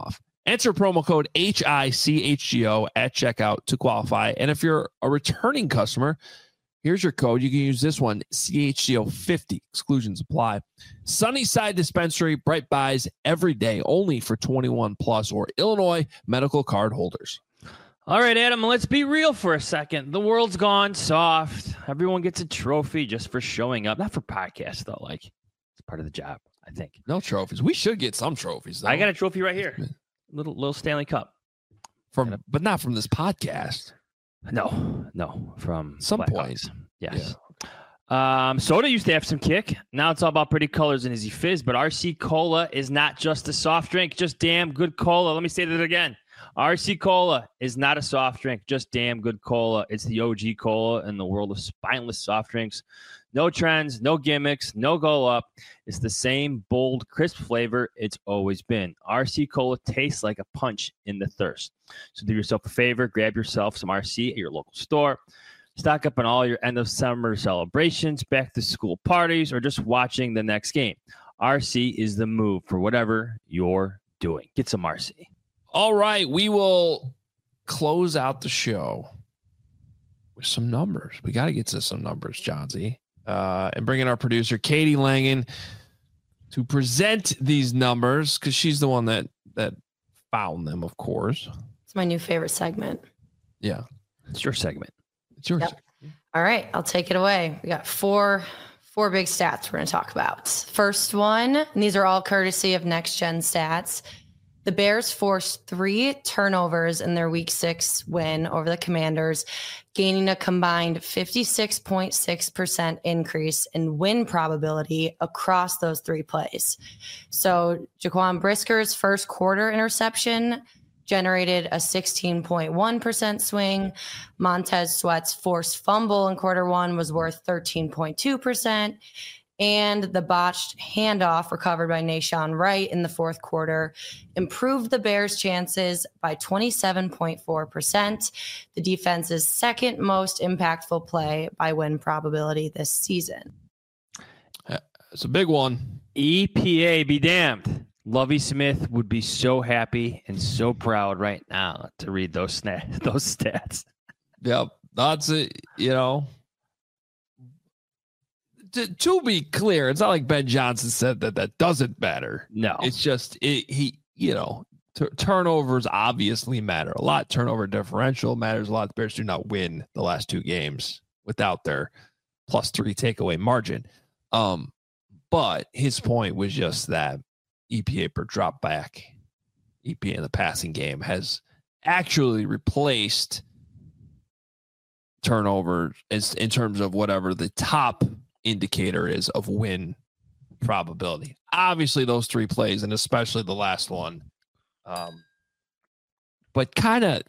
Enter promo code H I C H G O at checkout to qualify. And if you're a returning customer, here's your code. You can use this one, C H G O fifty. Exclusions apply. Sunnyside Dispensary, Bright Buys every day, only for twenty-one plus or Illinois medical card holders. All right, Adam, let's be real for a second. The world's gone soft. Everyone gets a trophy just for showing up. Not for podcasts, though. Like, it's part of the job, I think. No trophies. We should get some trophies, though. I got a trophy right here. Little little Stanley Cup. From, but not from this podcast. No, no. From some Black point. Hawks. Yes. Yeah. Um, soda used to have some kick. Now it's all about pretty colors and easy fizz. But R C Cola is not just a soft drink, just damn good cola. Let me say that again. R C Cola is not a soft drink, just damn good cola. It's the O G cola in the world of spineless soft drinks. No trends, no gimmicks, no go up. It's the same bold, crisp flavor it's always been. R C Cola tastes like a punch in the thirst. So do yourself a favor, grab yourself some R C at your local store. Stock up on all your end of summer celebrations, back to school parties, or just watching the next game. R C is the move for whatever you're doing. Get some R C. All right, we will close out the show with some numbers. We got to get to some numbers, Johnsy, uh, and bring in our producer, Katie Langen, to present these numbers because she's the one that that found them, of course. It's my new favorite segment. Yeah, it's your segment. It's yours. Yep. All right, I'll take it away. We got four four big stats we're going to talk about. First one, and these are all courtesy of Next Gen Stats. The Bears forced three turnovers in their week six win over the Commanders, gaining a combined fifty-six point six percent increase in win probability across those three plays. So Jaquan Brisker's first quarter interception generated a sixteen point one percent swing. Montez Sweat's forced fumble in quarter one was worth thirteen point two percent. And the botched handoff recovered by Nahshon Wright in the fourth quarter improved the Bears' chances by twenty-seven point four percent, the defense's second most impactful play by win probability this season. It's a big one. E P A be damned. Lovie Smith would be so happy and so proud right now to read those sna- those stats. Yep. That's it, you know. To, to be clear, it's not like Ben Johnson said that that doesn't matter. No, it's just it, he, you know, t- turnovers obviously matter a lot. Turnover differential matters a lot. The Bears do not win the last two games without their plus three takeaway margin. Um, but his point was just that E P A per drop back, E P A in the passing game has actually replaced turnover as in terms of whatever the top indicator is of win probability. Obviously those three plays and especially the last one, um but kind of,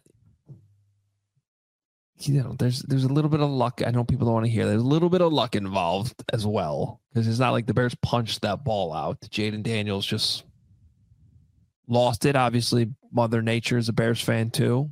you know, there's there's a little bit of luck. I know people don't want to hear there's a little bit of luck involved as well, because it's not like the Bears punched that ball out. Jaden Daniels just lost it. Obviously Mother Nature is a Bears fan too.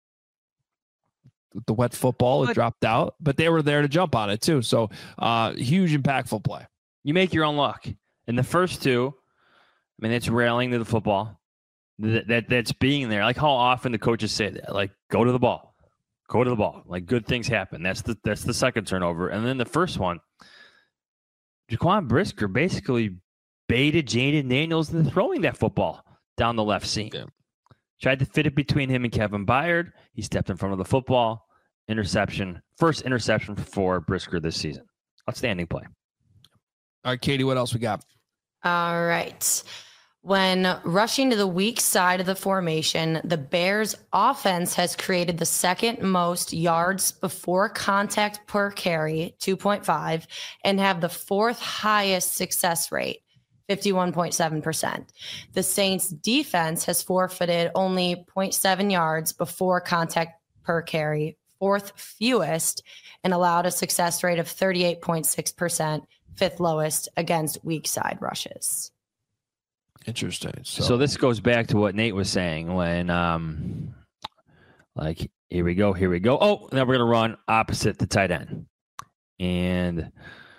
The wet football, it dropped out, but they were there to jump on it too. So uh, huge impactful play. You make your own luck. In the first two, I mean, it's railing to the football. That, that That's being there. Like how often the coaches say that, like, go to the ball, go to the ball. Like good things happen. That's the that's the second turnover. And then the first one, Jaquan Brisker basically baited Jaden Daniels into throwing that football down the left seam. Yeah. Tried to fit it between him and Kevin Byard. He stepped in front of the football. Interception. First interception for Brisker this season. Outstanding play. All right, Katie, what else we got? All right. When rushing to the weak side of the formation, the Bears' offense has created the second most yards before contact per carry, two point five, and have the fourth highest success rate, fifty-one point seven percent. The Saints defense has forfeited only zero point seven yards before contact per carry, fourth fewest, and allowed a success rate of thirty-eight point six percent, fifth lowest against weak side rushes. Interesting. So, so this goes back to what Nate was saying when, um, like, here we go, here we go. Oh, now we're going to run opposite the tight end. And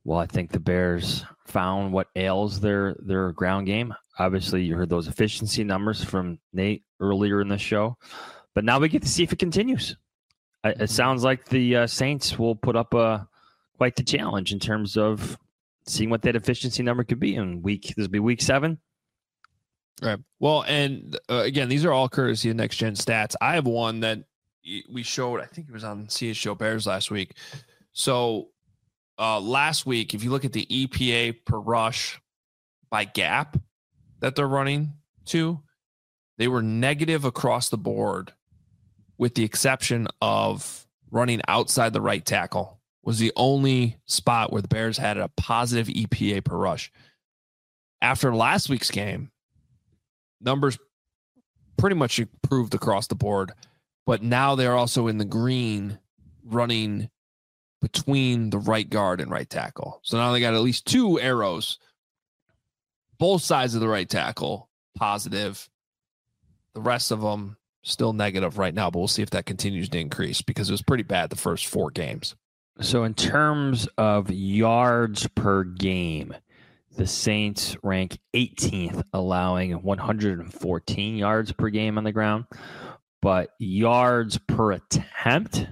well, I think the Bears found what ails their their ground game. Obviously, you heard those efficiency numbers from Nate earlier in the show, but now we get to see if it continues. It sounds like the uh, Saints will put up a quite the challenge in terms of seeing what that efficiency number could be in week. This will be week seven. Right. Well, and uh, again, these are all courtesy of Next Gen Stats. I have one that we showed. I think it was on C H Show Bears last week. So uh, last week, if you look at the E P A per rush by gap that they're running to, they were negative across the board, with the exception of running outside the right tackle. Was the only spot where the Bears had a positive E P A per rush. After last week's game, numbers pretty much improved across the board, but now they're also in the green running between the right guard and right tackle. So now they got at least two arrows, both sides of the right tackle, positive. The rest of them still negative right now, but we'll see if that continues to increase because it was pretty bad the first four games. So in terms of yards per game, the Saints rank eighteenth, allowing one hundred fourteen yards per game on the ground. But yards per attempt,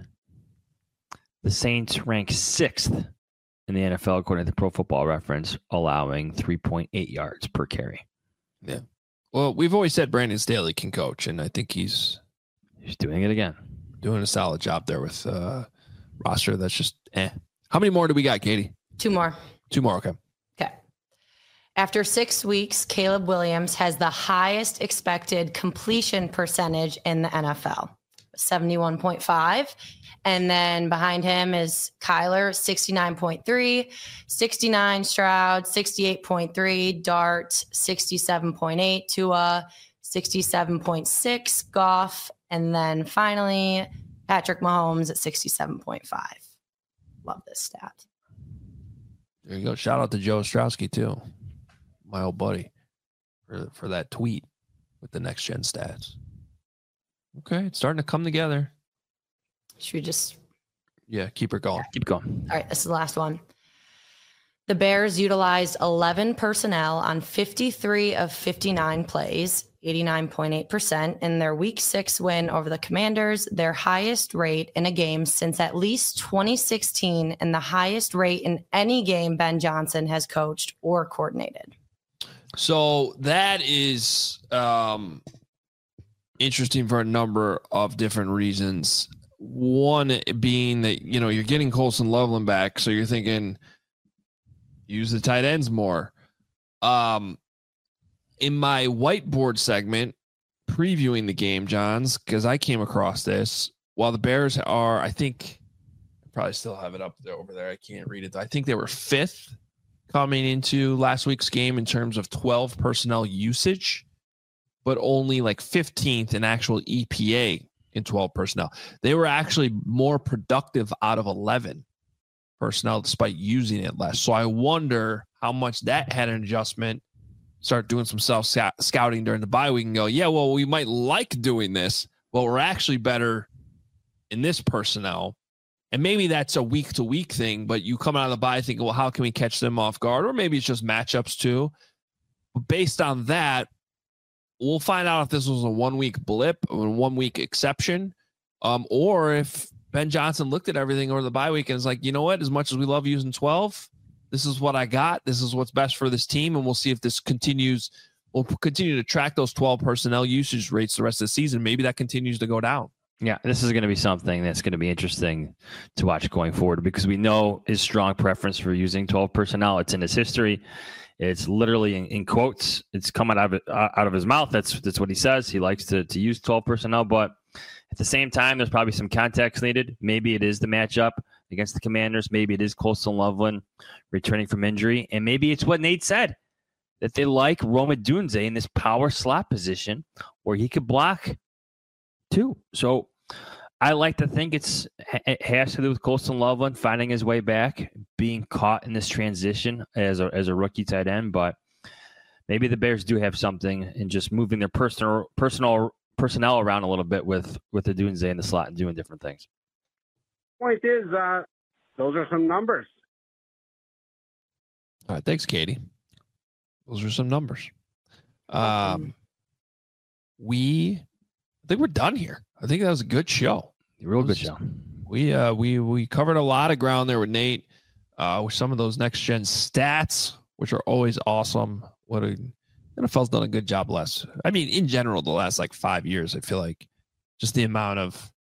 the Saints rank sixth in the N F L, according to the Pro Football Reference, allowing three point eight yards per carry. Yeah. Well, we've always said Brandon Staley can coach, and I think he's he's doing it again. Doing a solid job there with uh roster that's just eh. How many more do we got, Katie? Two more. Two more, okay. Okay. After six weeks, Caleb Williams has the highest expected completion percentage in the N F L, seventy-one point five. And then behind him is Kyler, sixty-nine point three, sixty-nine Stroud, sixty-eight point three, Dart, sixty-seven point eight, Tua, sixty-seven point six, Goff, and then finally Patrick Mahomes at sixty-seven point five. Love this stat. There you go. Shout out to Joe Ostrowski too, my old buddy, for for that tweet with the Next Gen Stats. Okay, it's starting to come together. Should we just... Yeah, keep her going. Yeah, keep going. All right, this is the last one. The Bears utilized eleven personnel on fifty-three of fifty-nine plays, eighty-nine point eight percent, in their week six win over the Commanders, their highest rate in a game since at least twenty sixteen, and the highest rate in any game Ben Johnson has coached or coordinated. So that is um, interesting for a number of different reasons. One being that, you know, you're getting Colson Loveland back, so you're thinking use the tight ends more. Um, in my whiteboard segment previewing the game, Johns, because I came across this, while the Bears are, I think, I probably still have it up there over there. I can't read it. I think they were fifth coming into last week's game in terms of twelve personnel usage, but only like fifteenth in actual E P A in twelve personnel. They were actually more productive out of eleven personnel despite using it less. So I wonder how much that had an adjustment. Start doing some self scouting during the bye week and go, yeah, well, we might like doing this, but we're actually better in this personnel. And maybe that's a week to week thing, but you come out of the bye thinking, well, how can we catch them off guard? Or maybe it's just matchups too. But based on that, we'll find out if this was a one-week blip or a one-week exception, um, or if Ben Johnson looked at everything over the bye week and is like, you know what, as much as we love using twelve, this is what I got. This is what's best for this team, and we'll see if this continues. We'll continue to track those twelve personnel usage rates the rest of the season. Maybe that continues to go down. Yeah, this is going to be something that's going to be interesting to watch going forward because we know his strong preference for using twelve personnel. It's in his history. It's literally in, in quotes. It's coming out of it, uh, out of his mouth. That's that's what he says. He likes to to use twelve personnel, but at the same time, there's probably some context needed. Maybe it is the matchup against the Commanders. Maybe it is Colson Loveland returning from injury, and maybe it's what Nate said, that they like Rome Odunze in this power slot position where he could block too. So I like to think it's it has to do with Colson Loveland finding his way back, being caught in this transition as a as a rookie tight end. But maybe the Bears do have something in just moving their personal personal personnel around a little bit with with the Odunze in the slot and doing different things. Point is, uh, those are some numbers. All right. Thanks, Katie. Those are some numbers. Um, we, I think we're done here. I think that was a good show. Real good show. We, uh, we, we covered a lot of ground there with Nate, uh, with some of those next gen stats, which are always awesome. What a, N F L's done a good job last. I mean, in general, the last like five years, I feel like just the amount of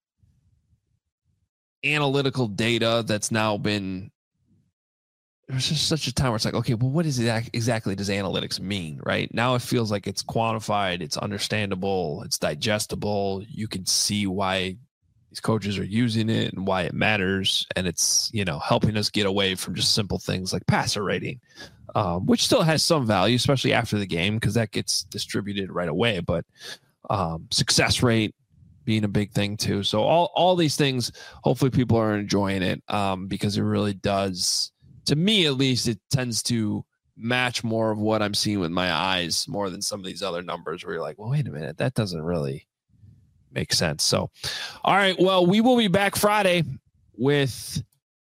analytical data that's now been, there's just such a time where it's like, okay, well, what is it exactly does analytics mean, right? Now it feels like it's quantified, it's understandable, it's digestible. You can see why these coaches are using it and why it matters. And it's, you know, helping us get away from just simple things like passer rating, um, which still has some value, especially after the game, because that gets distributed right away. But um, success rate being a big thing too. So all, all these things, hopefully people are enjoying it um, because it really does, to me at least, it tends to match more of what I'm seeing with my eyes more than some of these other numbers where you're like, well, wait a minute, that doesn't really make sense. So, all right, well, we will be back Friday with,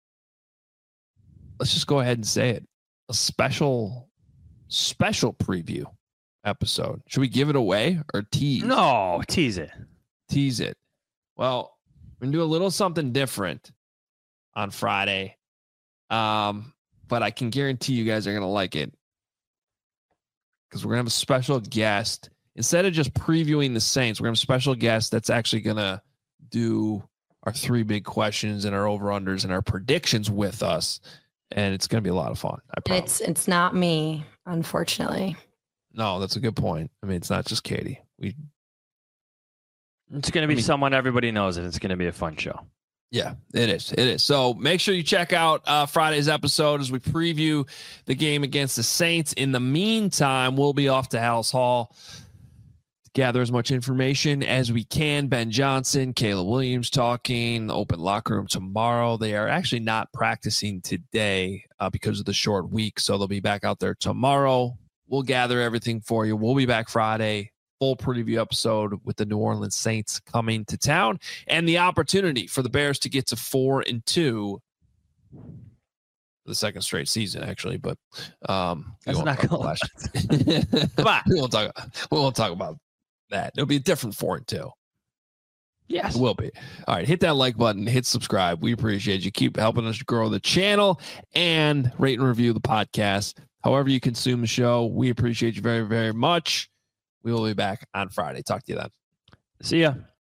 let's just go ahead and say it, a special, special preview episode. Should we give it away or tease? No, tease it. Tease it. Well, we're going to do a little something different on Friday. Um, but I can guarantee you guys are going to like it because we're going to have a special guest. Instead of just previewing the Saints, we're going to have a special guest that's actually going to do our three big questions and our over-unders and our predictions with us. And it's going to be a lot of fun. I promise. It's, it's not me, unfortunately. No, that's a good point. I mean, it's not just Katie. We. It's going to be I mean, someone everybody knows, and it's going to be a fun show. Yeah, it is. It is. So make sure you check out uh, Friday's episode as we preview the game against the Saints. In the meantime, we'll be off to Halas Hall to gather as much information as we can. Ben Johnson, Caleb Williams talking, the open locker room tomorrow. They are actually not practicing today uh, because of the short week, so they'll be back out there tomorrow. We'll gather everything for you. We'll be back Friday. Full preview episode with the New Orleans Saints coming to town and the opportunity for the Bears to get to four and two for the second straight season, actually. But um, that's not going to Come on, we won't talk. We won't talk about that. It'll be a different four and two. Yes, it will be. All right, hit that like button, hit subscribe. We appreciate you. Keep helping us grow the channel and rate and review the podcast. However you consume the show, we appreciate you very, very much. We will be back on Friday. Talk to you then. See ya.